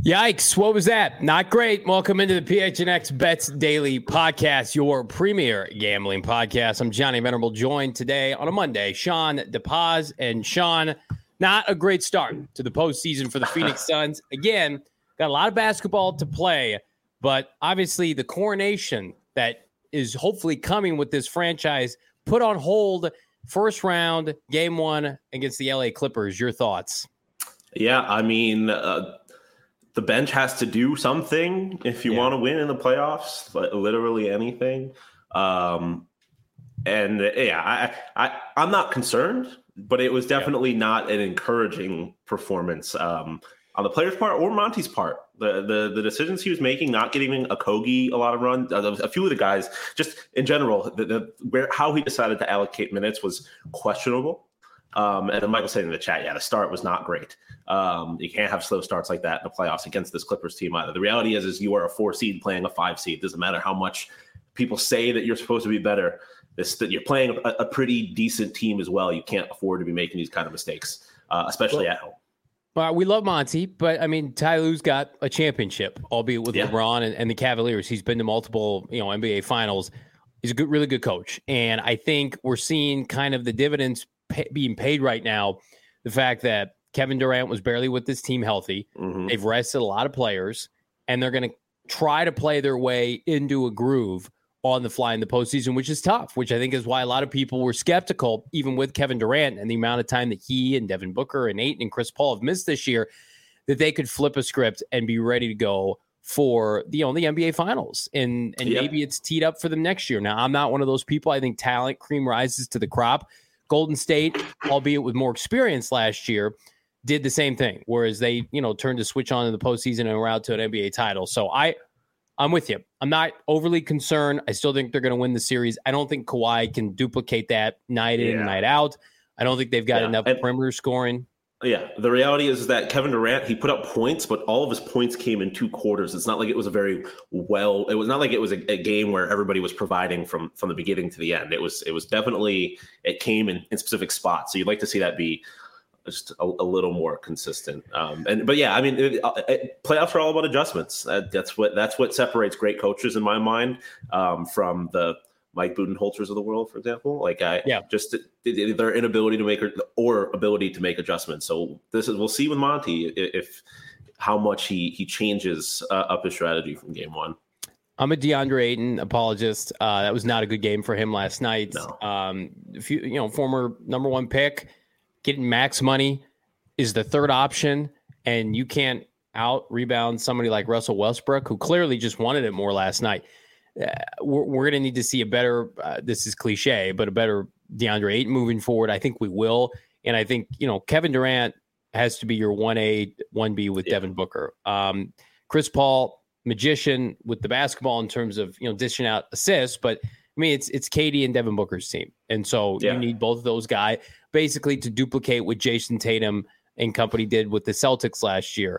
Yikes, what was that? Not great. Welcome into the PHNX Bets Daily Podcast, your premier gambling podcast. I'm Johnny Venerable, joined today on a Monday, Sean DePaz. And Sean, not a great start to the postseason for the Phoenix Suns. Again, got a lot of basketball to play, but obviously the coronation that is hopefully coming with this franchise put on hold. First round, game one against the LA Clippers. Your thoughts? Yeah, I mean, the bench has to do something if you want to win in the playoffs, literally anything. I'm not concerned, but it was definitely not an encouraging performance on the player's part or Monty's part. The decisions he was making, not giving Okogie a lot of run, a few of the guys, just in general, how he decided to allocate minutes was questionable. And then Michael said in the chat, the start was not great. You can't have slow starts like that in the playoffs against this Clippers team either. The reality is you are a 4 seed playing a 5 seed. Doesn't matter how much people say that you're supposed to be better. That you're playing a pretty decent team as well. You can't afford to be making these kind of mistakes, especially at home. Well, we love Monty, but I mean, Ty Lue's got a championship, albeit with LeBron and the Cavaliers. He's been to multiple, NBA finals. He's a really good coach. And I think we're seeing kind of the dividends being paid right now. The fact that Kevin Durant was barely with this team healthy. Mm-hmm. They've rested a lot of players, and they're going to try to play their way into a groove on the fly in the postseason, which is tough, which I think is why a lot of people were skeptical, even with Kevin Durant and the amount of time that he and Devin Booker and Ayton and Chris Paul have missed this year, that they could flip a script and be ready to go for the NBA Finals. And maybe it's teed up for them next year. Now, I'm not one of those people. I think talent cream rises to the crop. Golden State, albeit with more experience last year, did the same thing, whereas they, turned to switch on in the postseason and were out to an NBA title. So I'm with you. I'm not overly concerned. I still think they're going to win the series. I don't think Kawhi can duplicate that night in and night out. I don't think they've got enough perimeter scoring. Yeah, the reality is that Kevin Durant, he put up points, but all of his points came in 2 quarters. It's not like it was it was not like it was a game where everybody was providing from the beginning to the end. It was definitely, it came in specific spots. So you'd like to see that be just a little more consistent. Playoffs are all about adjustments. That's what separates great coaches in my mind from the Mike Budenholzers of the world, for example. Just their inability to make or ability to make adjustments. So we'll see with Monty if how much he changes up his strategy from game one. I'm a DeAndre Ayton apologist. That was not a good game for him last night. No. Former number 1 pick, getting max money is the third option, and you can't out rebound somebody like Russell Westbrook, who clearly just wanted it more last night. We're going to need to see a better, this is cliche, but a better DeAndre Ayton moving forward. I think we will. And I think, Kevin Durant has to be your 1A, 1B with Devin Booker. Chris Paul, magician with the basketball in terms of, dishing out assists, but I mean, it's KD and Devin Booker's team. And so you need both of those guys basically to duplicate what Jason Tatum and company did with the Celtics last year.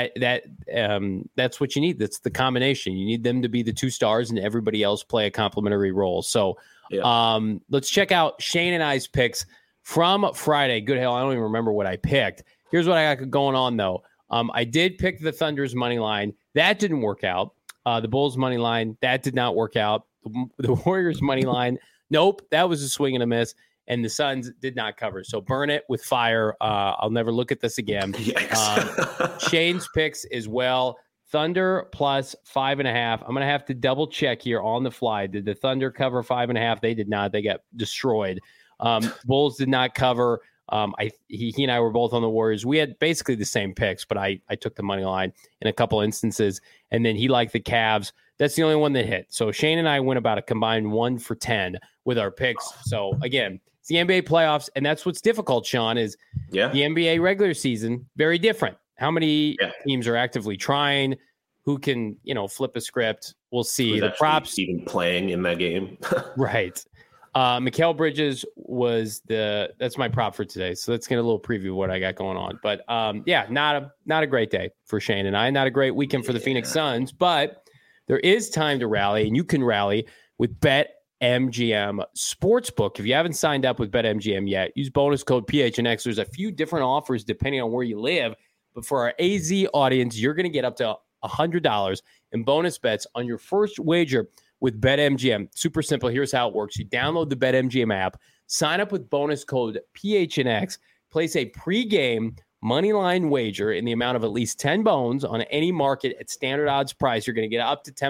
That's what you need. That's the combination. You need them to be the 2 stars and everybody else play a complementary role. So let's check out Shane and I's picks from Friday. Good hell, I don't even remember what I picked. Here's what I got going on, though. I did pick the Thunder's money line. That didn't work out. The Bulls money line, that did not work out. The Warriors money line, nope, that was a swing and a miss. And the Suns did not cover. So burn it with fire. I'll never look at this again. Shane's picks as well. Thunder plus 5.5. I'm going to have to double check here on the fly. Did the Thunder cover 5.5? They did not. They got destroyed. Bulls did not cover. He and I were both on the Warriors. We had basically the same picks, but I took the money line in a couple instances. And then he liked the Cavs. That's the only one that hit. So Shane and I went about a combined 1 for 10 with our picks. So again, it's the NBA playoffs, and that's what's difficult, Sean, is the NBA regular season, very different. How many teams are actively trying? Who can, flip a script? We'll see. Who's the props even playing in that game. Right. Mikal Bridges was that's my prop for today. So let's get a little preview of what I got going on. But not a great day for Shane and I. Not a great weekend for the Phoenix Suns, but there is time to rally, and you can rally with BetMGM Sportsbook. If you haven't signed up with BetMGM yet, use bonus code PHNX. There's a few different offers depending on where you live. But for our AZ audience, you're going to get up to $100 in bonus bets on your first wager with BetMGM. Super simple. Here's how it works. You download the BetMGM app, sign up with bonus code PHNX, place a pregame moneyline wager in the amount of at least 10 bones on any market at standard odds price. You're going to get up to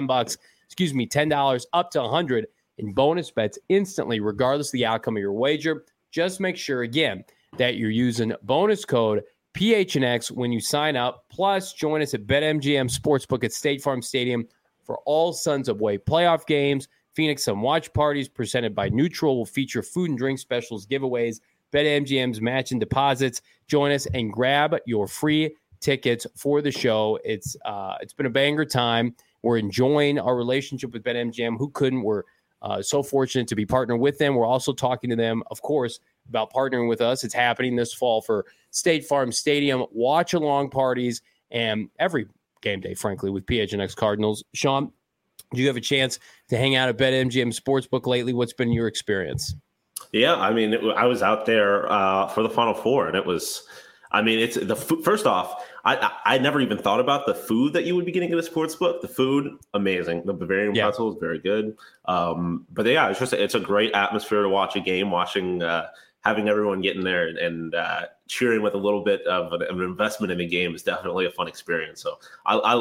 $10, up to 100 in bonus bets instantly, regardless of the outcome of your wager. Just make sure, again, that you're using bonus code PHNX when you sign up. Plus, join us at BetMGM Sportsbook at State Farm Stadium for all Sons of Way playoff games. Phoenix Sun watch parties presented by Neutral will feature food and drink specials, giveaways, BetMGM's match and deposits. Join us and grab your free tickets for the show. It's been a banger time. We're enjoying our relationship with BetMGM. Who couldn't? We're so fortunate to be partnering with them. We're also talking to them, of course, about partnering with us. It's happening this fall for State Farm Stadium watch-along parties and every game day, frankly, with PHNX Cardinals. Sean, do you have a chance to hang out at BetMGM Sportsbook lately? What's been your experience? Yeah, I mean, I was out there for the Final Four, and it was, I mean, it's the first off, I never even thought about the food that you would be getting at a sports book. The food, amazing. The Bavarian pretzel is very good. But yeah, it's a great atmosphere to watch a game, having everyone getting there and cheering with a little bit of an investment in the game is definitely a fun experience. So I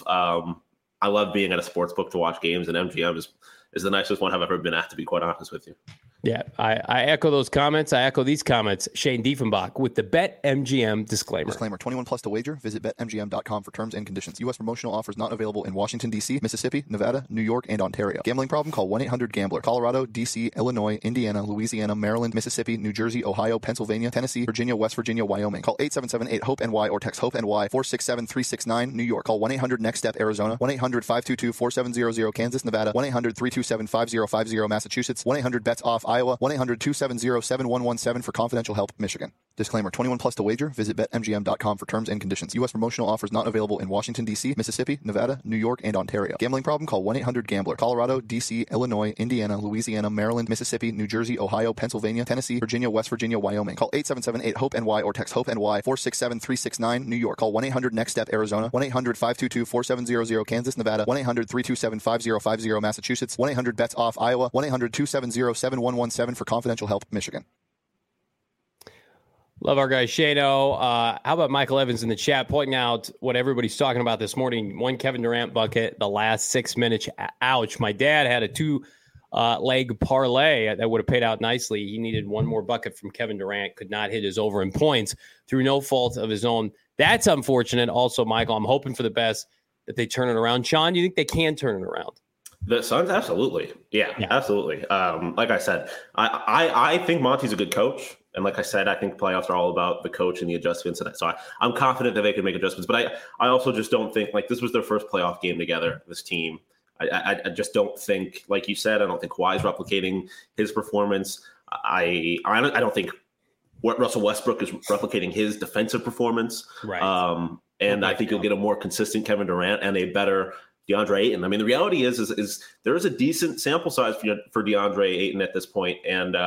love being at a sports book to watch games, and MGM is the nicest one I've ever been at, to be quite honest with you. Yeah, I echo those comments. I echo these comments. Shane Diefenbach with the BetMGM disclaimer. Disclaimer, 21 plus to wager. Visit BetMGM.com for terms and conditions. U.S. promotional offers not available in Washington, D.C., Mississippi, Nevada, New York, and Ontario. Gambling problem? Call 1-800-GAMBLER. Colorado, D.C., Illinois, Indiana, Louisiana, Maryland, Mississippi, New Jersey, Ohio, Pennsylvania, Tennessee, Virginia, West Virginia, Wyoming. Call 877-8-HOPE-NY or text HOPE-NY 467-369. New York. Call 1-800-NEXT-STEP, Arizona. 1-800-522-4700, Kansas, Nevada. 1-800-327-5050, Massachusetts. 1-800-BETS-OFF, Iowa. 1-800-270-7117 for confidential help, Michigan. Disclaimer, 21 plus to wager. Visit BetMGM.com for terms and conditions. U.S. promotional offers not available in Washington, D.C., Mississippi, Nevada, New York, and Ontario. Gambling problem? Call 1-800-GAMBLER. Colorado, D.C., Illinois, Indiana, Louisiana, Maryland, Mississippi, New Jersey, Ohio, Pennsylvania, Tennessee, Virginia, West Virginia, Wyoming. Call 877-8-HOPE-NY or text HOPE-NY 467-369. New York. Call 1-800-NEXT-STEP, Arizona. 1-800-522-4700, Kansas, Nevada. 1-800-327-5050, Massachusetts. 1-800-BETS-OFF, Iowa. 1-800-270-7117 for confidential help, Michigan. Love our guy Shano. How about Michael Evans in the chat pointing out what everybody's talking about this morning? One Kevin Durant bucket, the last 6 minutes. Ouch. My dad had a two-leg parlay that would have paid out nicely. He needed one more bucket from Kevin Durant, could not hit his over in points through no fault of his own. That's unfortunate. Also, Michael, I'm hoping for the best that they turn it around. Sean, do you think they can turn it around? The Suns, absolutely. Yeah, absolutely. Like I said, I think Monty's a good coach. And like I said, I think playoffs are all about the coach and the adjustments. And so I'm confident that they can make adjustments. But I also just don't think, like, this was their first playoff game together, this team. I just don't think, like you said, I don't think Kawhi's replicating his performance. I don't think Russell Westbrook is replicating his defensive performance. Right. And I think you'll get a more consistent Kevin Durant and a better DeAndre Ayton. I mean, the reality is there is a decent sample size for DeAndre Ayton at this point, and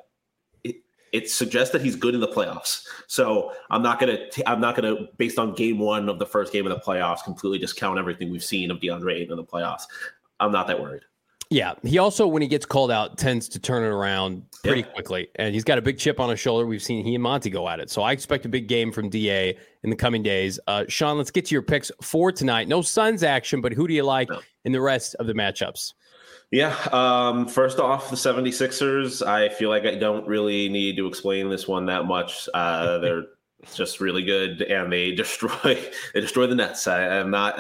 it suggests that he's good in the playoffs. So I'm not gonna based on game one of the first game of the playoffs completely discount everything we've seen of DeAndre Ayton in the playoffs. I'm not that worried. Yeah, he also, when he gets called out, tends to turn it around pretty quickly. And he's got a big chip on his shoulder. We've seen he and Monty go at it. So I expect a big game from DA in the coming days. Sean, let's get to your picks for tonight. No Suns action, but who do you like in the rest of the matchups? Yeah, first off, the 76ers, I feel like I don't really need to explain this one that much. They're just really good, and they destroy the Nets. I'm not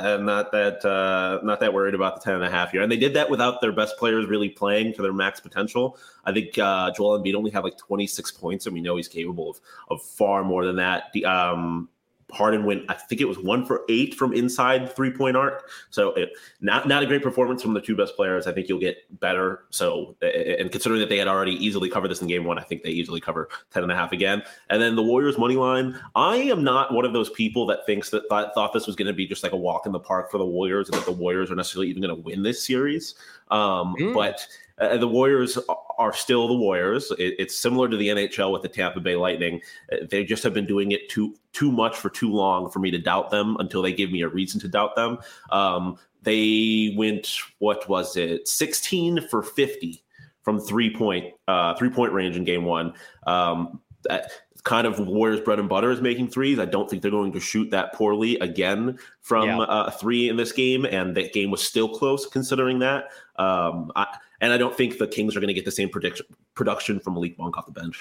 that worried about the 10.5 here. And they did that without their best players really playing to their max potential. I think Joel Embiid only had like 26 points, and we know he's capable of far more than that. Harden went, I think it was 1 for 8 from inside the 3-point arc. So not a great performance from the two best players. I think you'll get better. So, and considering that they had already easily covered this in game one, I think they easily cover 10.5 again. And then the Warriors money line. I am not one of those people that thought this was going to be just like a walk in the park for the Warriors and that the Warriors are necessarily even going to win this series. But the Warriors are still the Warriors. It's similar to the NHL with the Tampa Bay Lightning. They just have been doing it too much for too long for me to doubt them until they give me a reason to doubt them. They went, 16 for 50 from 3-point range in game one. That kind of Warriors bread and butter is making threes. I don't think they're going to shoot that poorly again from three in this game, and that game was still close considering that. And I don't think the Kings are going to get the same production from Malik Monk off the bench.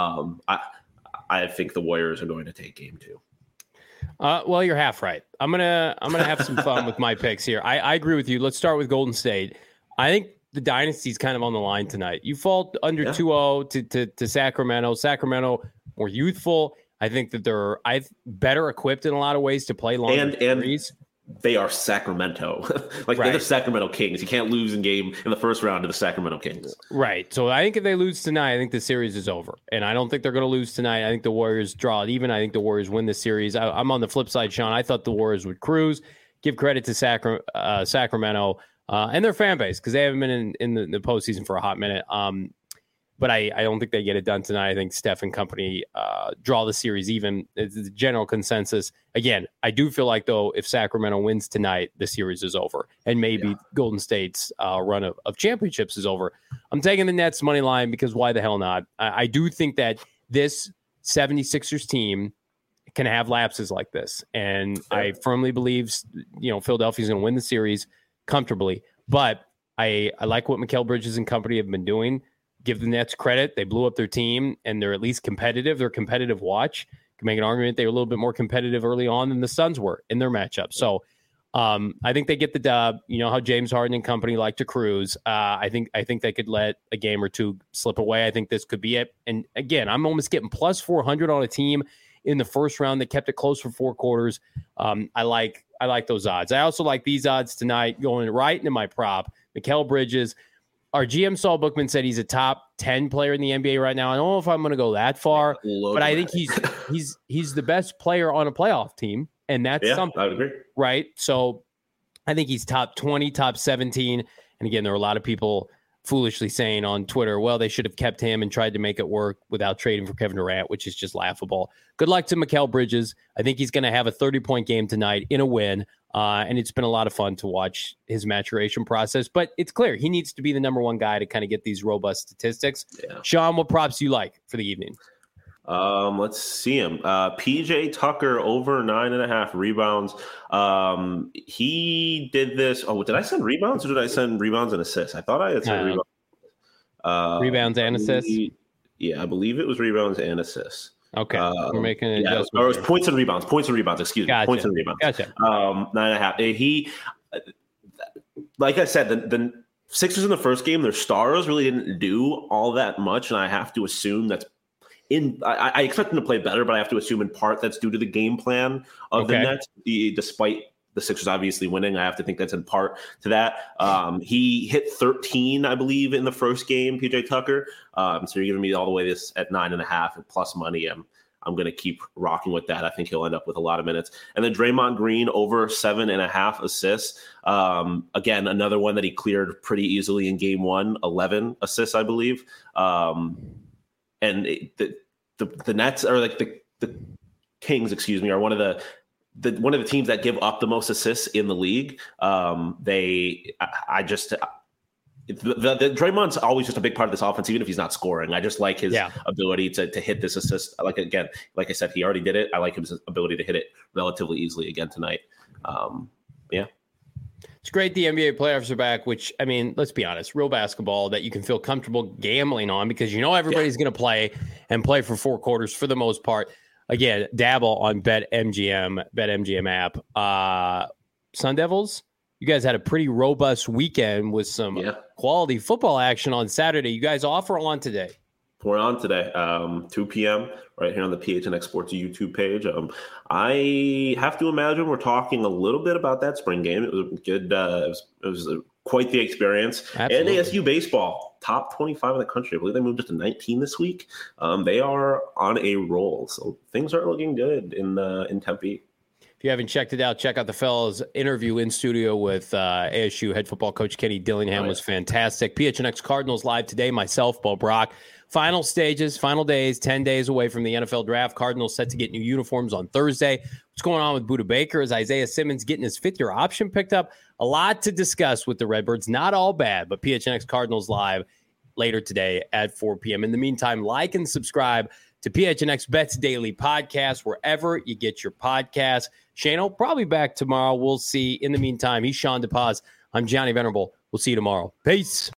I think the Warriors are going to take game two. Well, you're half right. I'm gonna have some fun with my picks here. I agree with you. Let's start with Golden State. I think the dynasty's kind of on the line tonight. You fall under 2-0 to Sacramento. Sacramento more youthful. I think that they're better equipped in a lot of ways to play long series. They are Sacramento. They're the Sacramento Kings. You can't lose in the first round to the Sacramento Kings. Right. So I think if they lose tonight, I think the series is over. And I don't think they're going to lose tonight. I think the Warriors draw it even. I think the Warriors win the series. I'm on the flip side, Sean. I thought the Warriors would cruise. Give credit to Sacramento and their fan base because they haven't been in the postseason for a hot minute. But I don't think they get it done tonight. I think Steph and company draw the series even. It's the general consensus. Again, I do feel like, though, if Sacramento wins tonight, the series is over. And maybe Golden State's run of championships is over. I'm taking the Nets money line because why the hell not? I do think that this 76ers team can have lapses like this. And I firmly believe, Philadelphia's going to win the series comfortably. But I like what Mikal Bridges and company have been doing. Give the Nets credit. They blew up their team, and they're at least competitive. They're a competitive watch. You can make an argument they were a little bit more competitive early on than the Suns were in their matchup. So I think they get the dub. You know how James Harden and company like to cruise. I think they could let a game or two slip away. I think this could be it. And again, I'm almost getting plus 400 on a team in the first round that kept it close for 4 quarters. I like those odds. I also like these odds tonight going right into my prop. Mikal Bridges. Our GM Saul Bookman said he's a top 10 player in the NBA right now. I don't know if I'm going to go that far, but I think he's the best player on a playoff team, and that's something. I would agree. Right? So I think he's top 20, top 17. And again, there are a lot of people foolishly saying on Twitter, well, they should have kept him and tried to make it work without trading for Kevin Durant, which is just laughable. Good luck to Mikal Bridges. I think he's going to have a 30-point game tonight in a win. And it's been a lot of fun to watch his maturation process. But it's clear he needs to be the number one guy to kind of get these robust statistics. Yeah. Sean, what props do you like for the evening? Let's see him. PJ Tucker over 9.5 rebounds. He did this. Oh, did I send rebounds or did I send rebounds and assists? I thought I had sent rebounds. Rebounds and assists? Yeah, I believe it was rebounds and assists. Okay, we're making an adjustment. Or it was points and rebounds. Excuse me. Gotcha. Points and rebounds. Gotcha. 9.5. He, like I said, the Sixers in the first game, their stars really didn't do all that much, and I have to assume that's I expect them to play better, but I have to assume in part that's due to the game plan of the Nets, despite the Sixers obviously winning. I have to think that's in part to that. He hit 13, I believe, in the first game, PJ Tucker. So you're giving me all the way this at 9.5 and plus money. I'm going to keep rocking with that. I think he'll end up with a lot of minutes. And then Draymond Green over 7.5 assists. Again, another one that he cleared pretty easily in game one, 11 assists, I believe. And the Nets are like the Kings, are one of the teams that give up the most assists in the league. Draymond's always just a big part of this offense, even if he's not scoring. I just like his ability to hit this assist. Like I said, he already did it. I like his ability to hit it relatively easily again tonight. It's great the NBA playoffs are back, which, I mean, let's be honest, real basketball that you can feel comfortable gambling on because everybody's going to play for 4 quarters for the most part. Again, dabble on BetMGM app. Sun Devils, you guys had a pretty robust weekend with some quality football action on Saturday. You guys off or on today? We're on today, 2 p.m. right here on the PHNX Sports YouTube page. I have to imagine we're talking a little bit about that spring game. It was a good. It was quite the experience. Absolutely. And ASU baseball, top 25 in the country. I believe they moved up to 19 this week. They are on a roll, so things are looking good in Tempe. If If you haven't checked it out, check out the fellas' interview in studio with ASU head football coach Kenny Dillingham. Was fantastic. PHNX Cardinals live today. Myself, Bo Brock. Final stages, final days, 10 days away from the NFL draft. Cardinals set to get new uniforms on Thursday. What's going on with Budda Baker? Is Isaiah Simmons getting his fifth-year option picked up? A lot to discuss with the Redbirds. Not all bad, but PHNX Cardinals live later today at 4 p.m. In the meantime, like and subscribe to PHNX Bets Daily Podcast, wherever you get your podcasts. Shane probably back tomorrow. We'll see. In the meantime, he's Sean DePaz. I'm Johnny Venerable. We'll see you tomorrow. Peace.